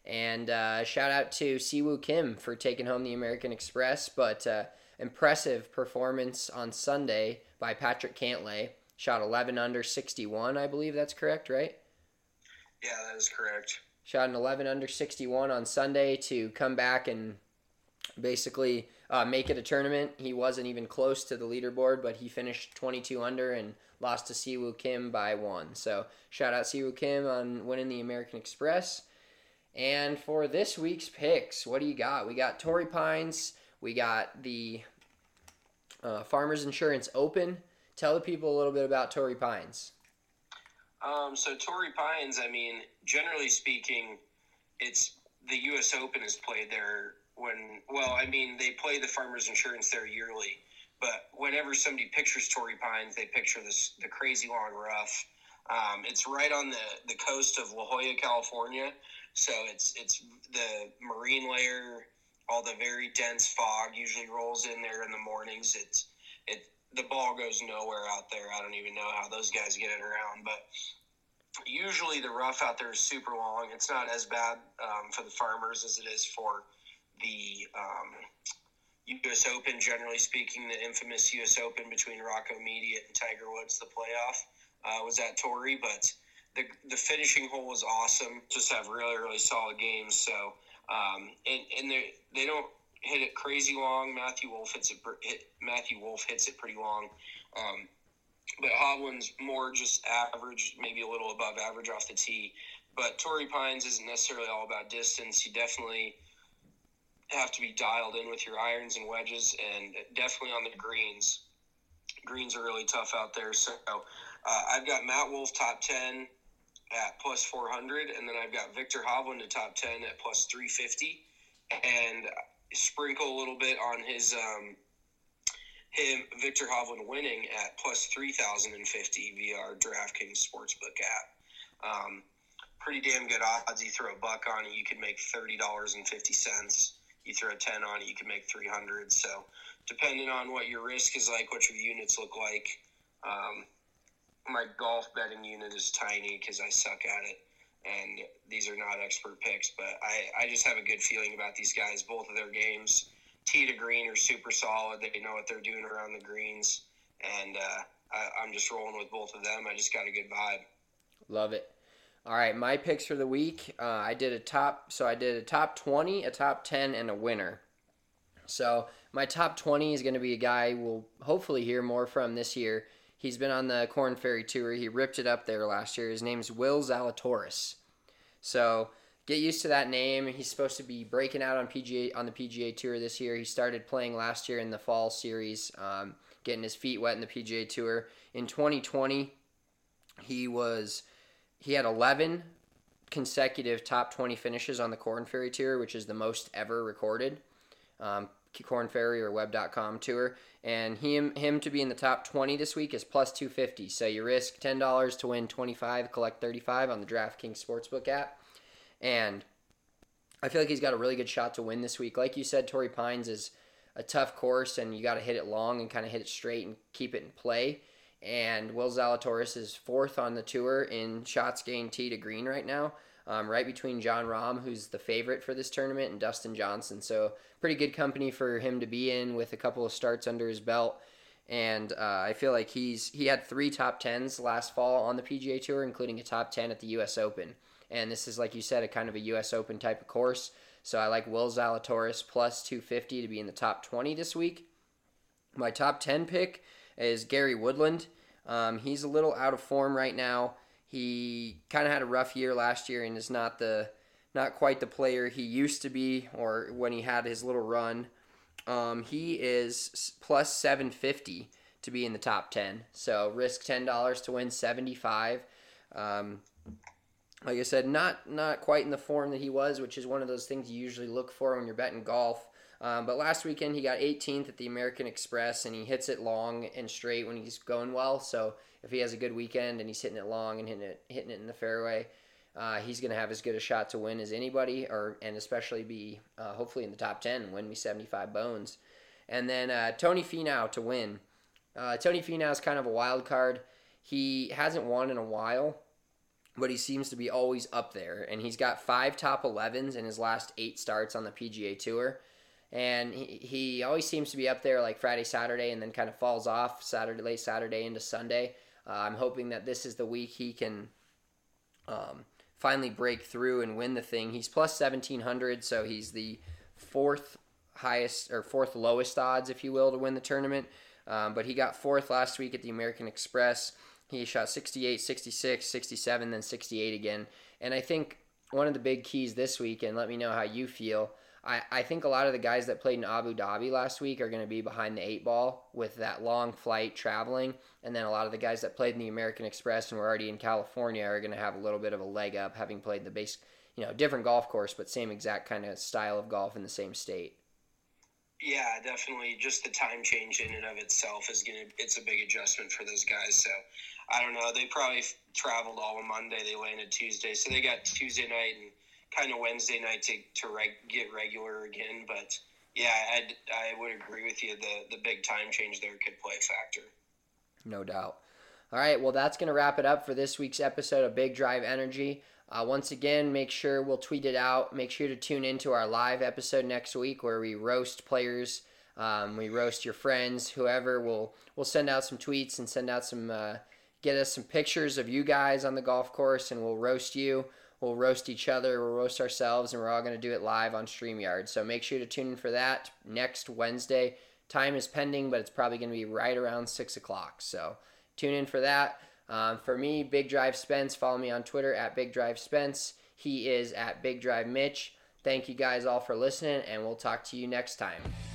And uh, shout out to Siwoo Kim for taking home the American Express, but uh, impressive performance on Sunday by Patrick Cantlay. Shot eleven under sixty-one, I believe that's correct, right? Yeah, that is correct. Shot an eleven under sixty-one on Sunday to come back and basically uh, make it a tournament. He wasn't even close to the leaderboard, but he finished twenty-two under and lost to Siwoo Kim by one. So shout out Siwoo Kim on winning the American Express. And for this week's picks, what do you got? We got Torrey Pines. We got the uh, Farmers Insurance Open. Tell the people a little bit about Torrey Pines. Um, so Torrey Pines, I mean, generally speaking, it's the U S Open is played there when, well, I mean, they play the Farmers Insurance there yearly, but whenever somebody pictures Torrey Pines, they picture this the crazy long rough. Um, it's right on the, the coast of La Jolla, California. So it's it's the marine layer, all the very dense fog usually rolls in there in the mornings. It's it the ball goes nowhere out there. I don't even know how those guys get it around, but usually the rough out there is super long. It's not as bad um, for the farmers as it is for the um, U S Open. Generally speaking, the infamous U S Open between Rocco Mediate and Tiger Woods, the playoff, uh, was at Torrey, but The the finishing hole was awesome. Just have really, really solid games. So, um, and, and they they don't hit it crazy long. Matthew Wolf hits it hit, Matthew Wolf hits it pretty long. Um, but Hovland's more just average, maybe a little above average off the tee. But Torrey Pines isn't necessarily all about distance. You definitely have to be dialed in with your irons and wedges, and definitely on the greens. Greens are really tough out there. So uh, I've got Matt Wolf top ten at plus four hundred, and then I've got Victor Hovland to top ten at plus three fifty, and sprinkle a little bit on his um, him Victor Hovland winning at plus three thousand fifty via our DraftKings Sportsbook app. Um, pretty damn good odds. You throw a buck on it, you could make thirty dollars and fifty cents. You throw a ten on it, you can make three hundred. So depending on what your risk is like, what your units look like, um, my golf betting unit is tiny because I suck at it, and these are not expert picks, but I, I just have a good feeling about these guys. Both of their games, tee to green, are super solid. They know what they're doing around the greens, and uh, I, I'm just rolling with both of them. I just got a good vibe. Love it. All right, my picks for the week. Uh, I did a top, so I did a top twenty, a top ten, and a winner. So my top twenty is going to be a guy we'll hopefully hear more from this year. He's been on the Korn Ferry Tour. He ripped it up there last year. His name's Will Zalatoris. So get used to that name. He's supposed to be breaking out on P G A on the P G A Tour this year. He started playing last year in the fall series, um, getting his feet wet in the P G A Tour. In twenty twenty, he was he had eleven consecutive top twenty finishes on the Korn Ferry Tour, which is the most ever recorded. Um, Korn Ferry or web dot com tour, and him him to be in the top twenty this week is plus two fifty. So you risk ten dollars to win twenty-five, collect thirty-five on the DraftKings Sportsbook app. And I feel like he's got a really good shot to win this week. Like you said, Torrey Pines is a tough course, and you got to hit it long and kind of hit it straight and keep it in play. And Will Zalatoris is fourth on the tour in shots gained tee to green right now. Um, right between Jon Rahm, who's the favorite for this tournament, and Dustin Johnson. So pretty good company for him to be in with a couple of starts under his belt. And uh, I feel like he's he had three top tens last fall on the P G A Tour, including a top ten at the U S Open. And this is, like you said, a kind of a U S Open type of course. So I like Will Zalatoris plus two fifty to be in the top twenty this week. My top ten pick is Gary Woodland. Um, he's a little out of form right now. He kind of had a rough year last year and is not the not quite the player he used to be, or when he had his little run. Um, he is plus seven fifty to be in the top ten. So risk ten dollars to win seventy-five. Um, like I said, not not quite in the form that he was, which is one of those things you usually look for when you're betting golf. Um, but last weekend he got eighteenth at the American Express, and he hits it long and straight when he's going well. So if he has a good weekend and he's hitting it long and hitting it hitting it in the fairway, uh, he's going to have as good a shot to win as anybody, or and especially be uh, hopefully in the top ten and win me seventy-five bones. And then uh, Tony Finau to win. Uh, Tony Finau is kind of a wild card. He hasn't won in a while. but he seems to be always up there. And he's got five top elevens in his last eight starts on the P G A Tour. And he, he always seems to be up there like Friday, Saturday, and then kind of falls off Saturday, late Saturday into Sunday. Uh, I'm hoping that this is the week he can um, finally break through and win the thing. He's plus seventeen hundred, so he's the fourth highest or fourth lowest odds, if you will, to win the tournament. Um, but he got fourth last week at the American Express. He shot sixty-eight, sixty-six, sixty-seven, then sixty-eight again. And I think one of the big keys this week, and let me know how you feel, I, I think a lot of the guys that played in Abu Dhabi last week are going to be behind the eight ball with that long flight traveling. And then a lot of the guys that played in the American Express and were already in California are going to have a little bit of a leg up, having played the base, you know, different golf course, but same exact kind of style of golf in the same state. Yeah, definitely. Just the time change in and of itself is going to, it's a big adjustment for those guys. So I don't know. They probably traveled all on Monday. They landed Tuesday. So they got Tuesday night and kind of Wednesday night to, to reg, get regular again. But yeah, I'd, I would agree with you. The, the big time change there could play a factor. No doubt. All right. Well, that's going to wrap it up for this week's episode of Big Drive Energy. Uh, once again, make sure we'll tweet it out. Make sure to tune into our live episode next week where we roast players. Um, we roast your friends, whoever. We'll we'll send out some tweets and send out some, uh, get us some pictures of you guys on the golf course, and we'll roast you. We'll roast each other. We'll roast ourselves, and we're all going to do it live on StreamYard. So make sure to tune in for that next Wednesday. Time is pending, but it's probably going to be right around six o'clock. So tune in for that. Um, for me, Big Drive Spence. Follow me on Twitter at Big Drive Spence. He is at Big Drive Mitch. Thank you guys all for listening, and we'll talk to you next time.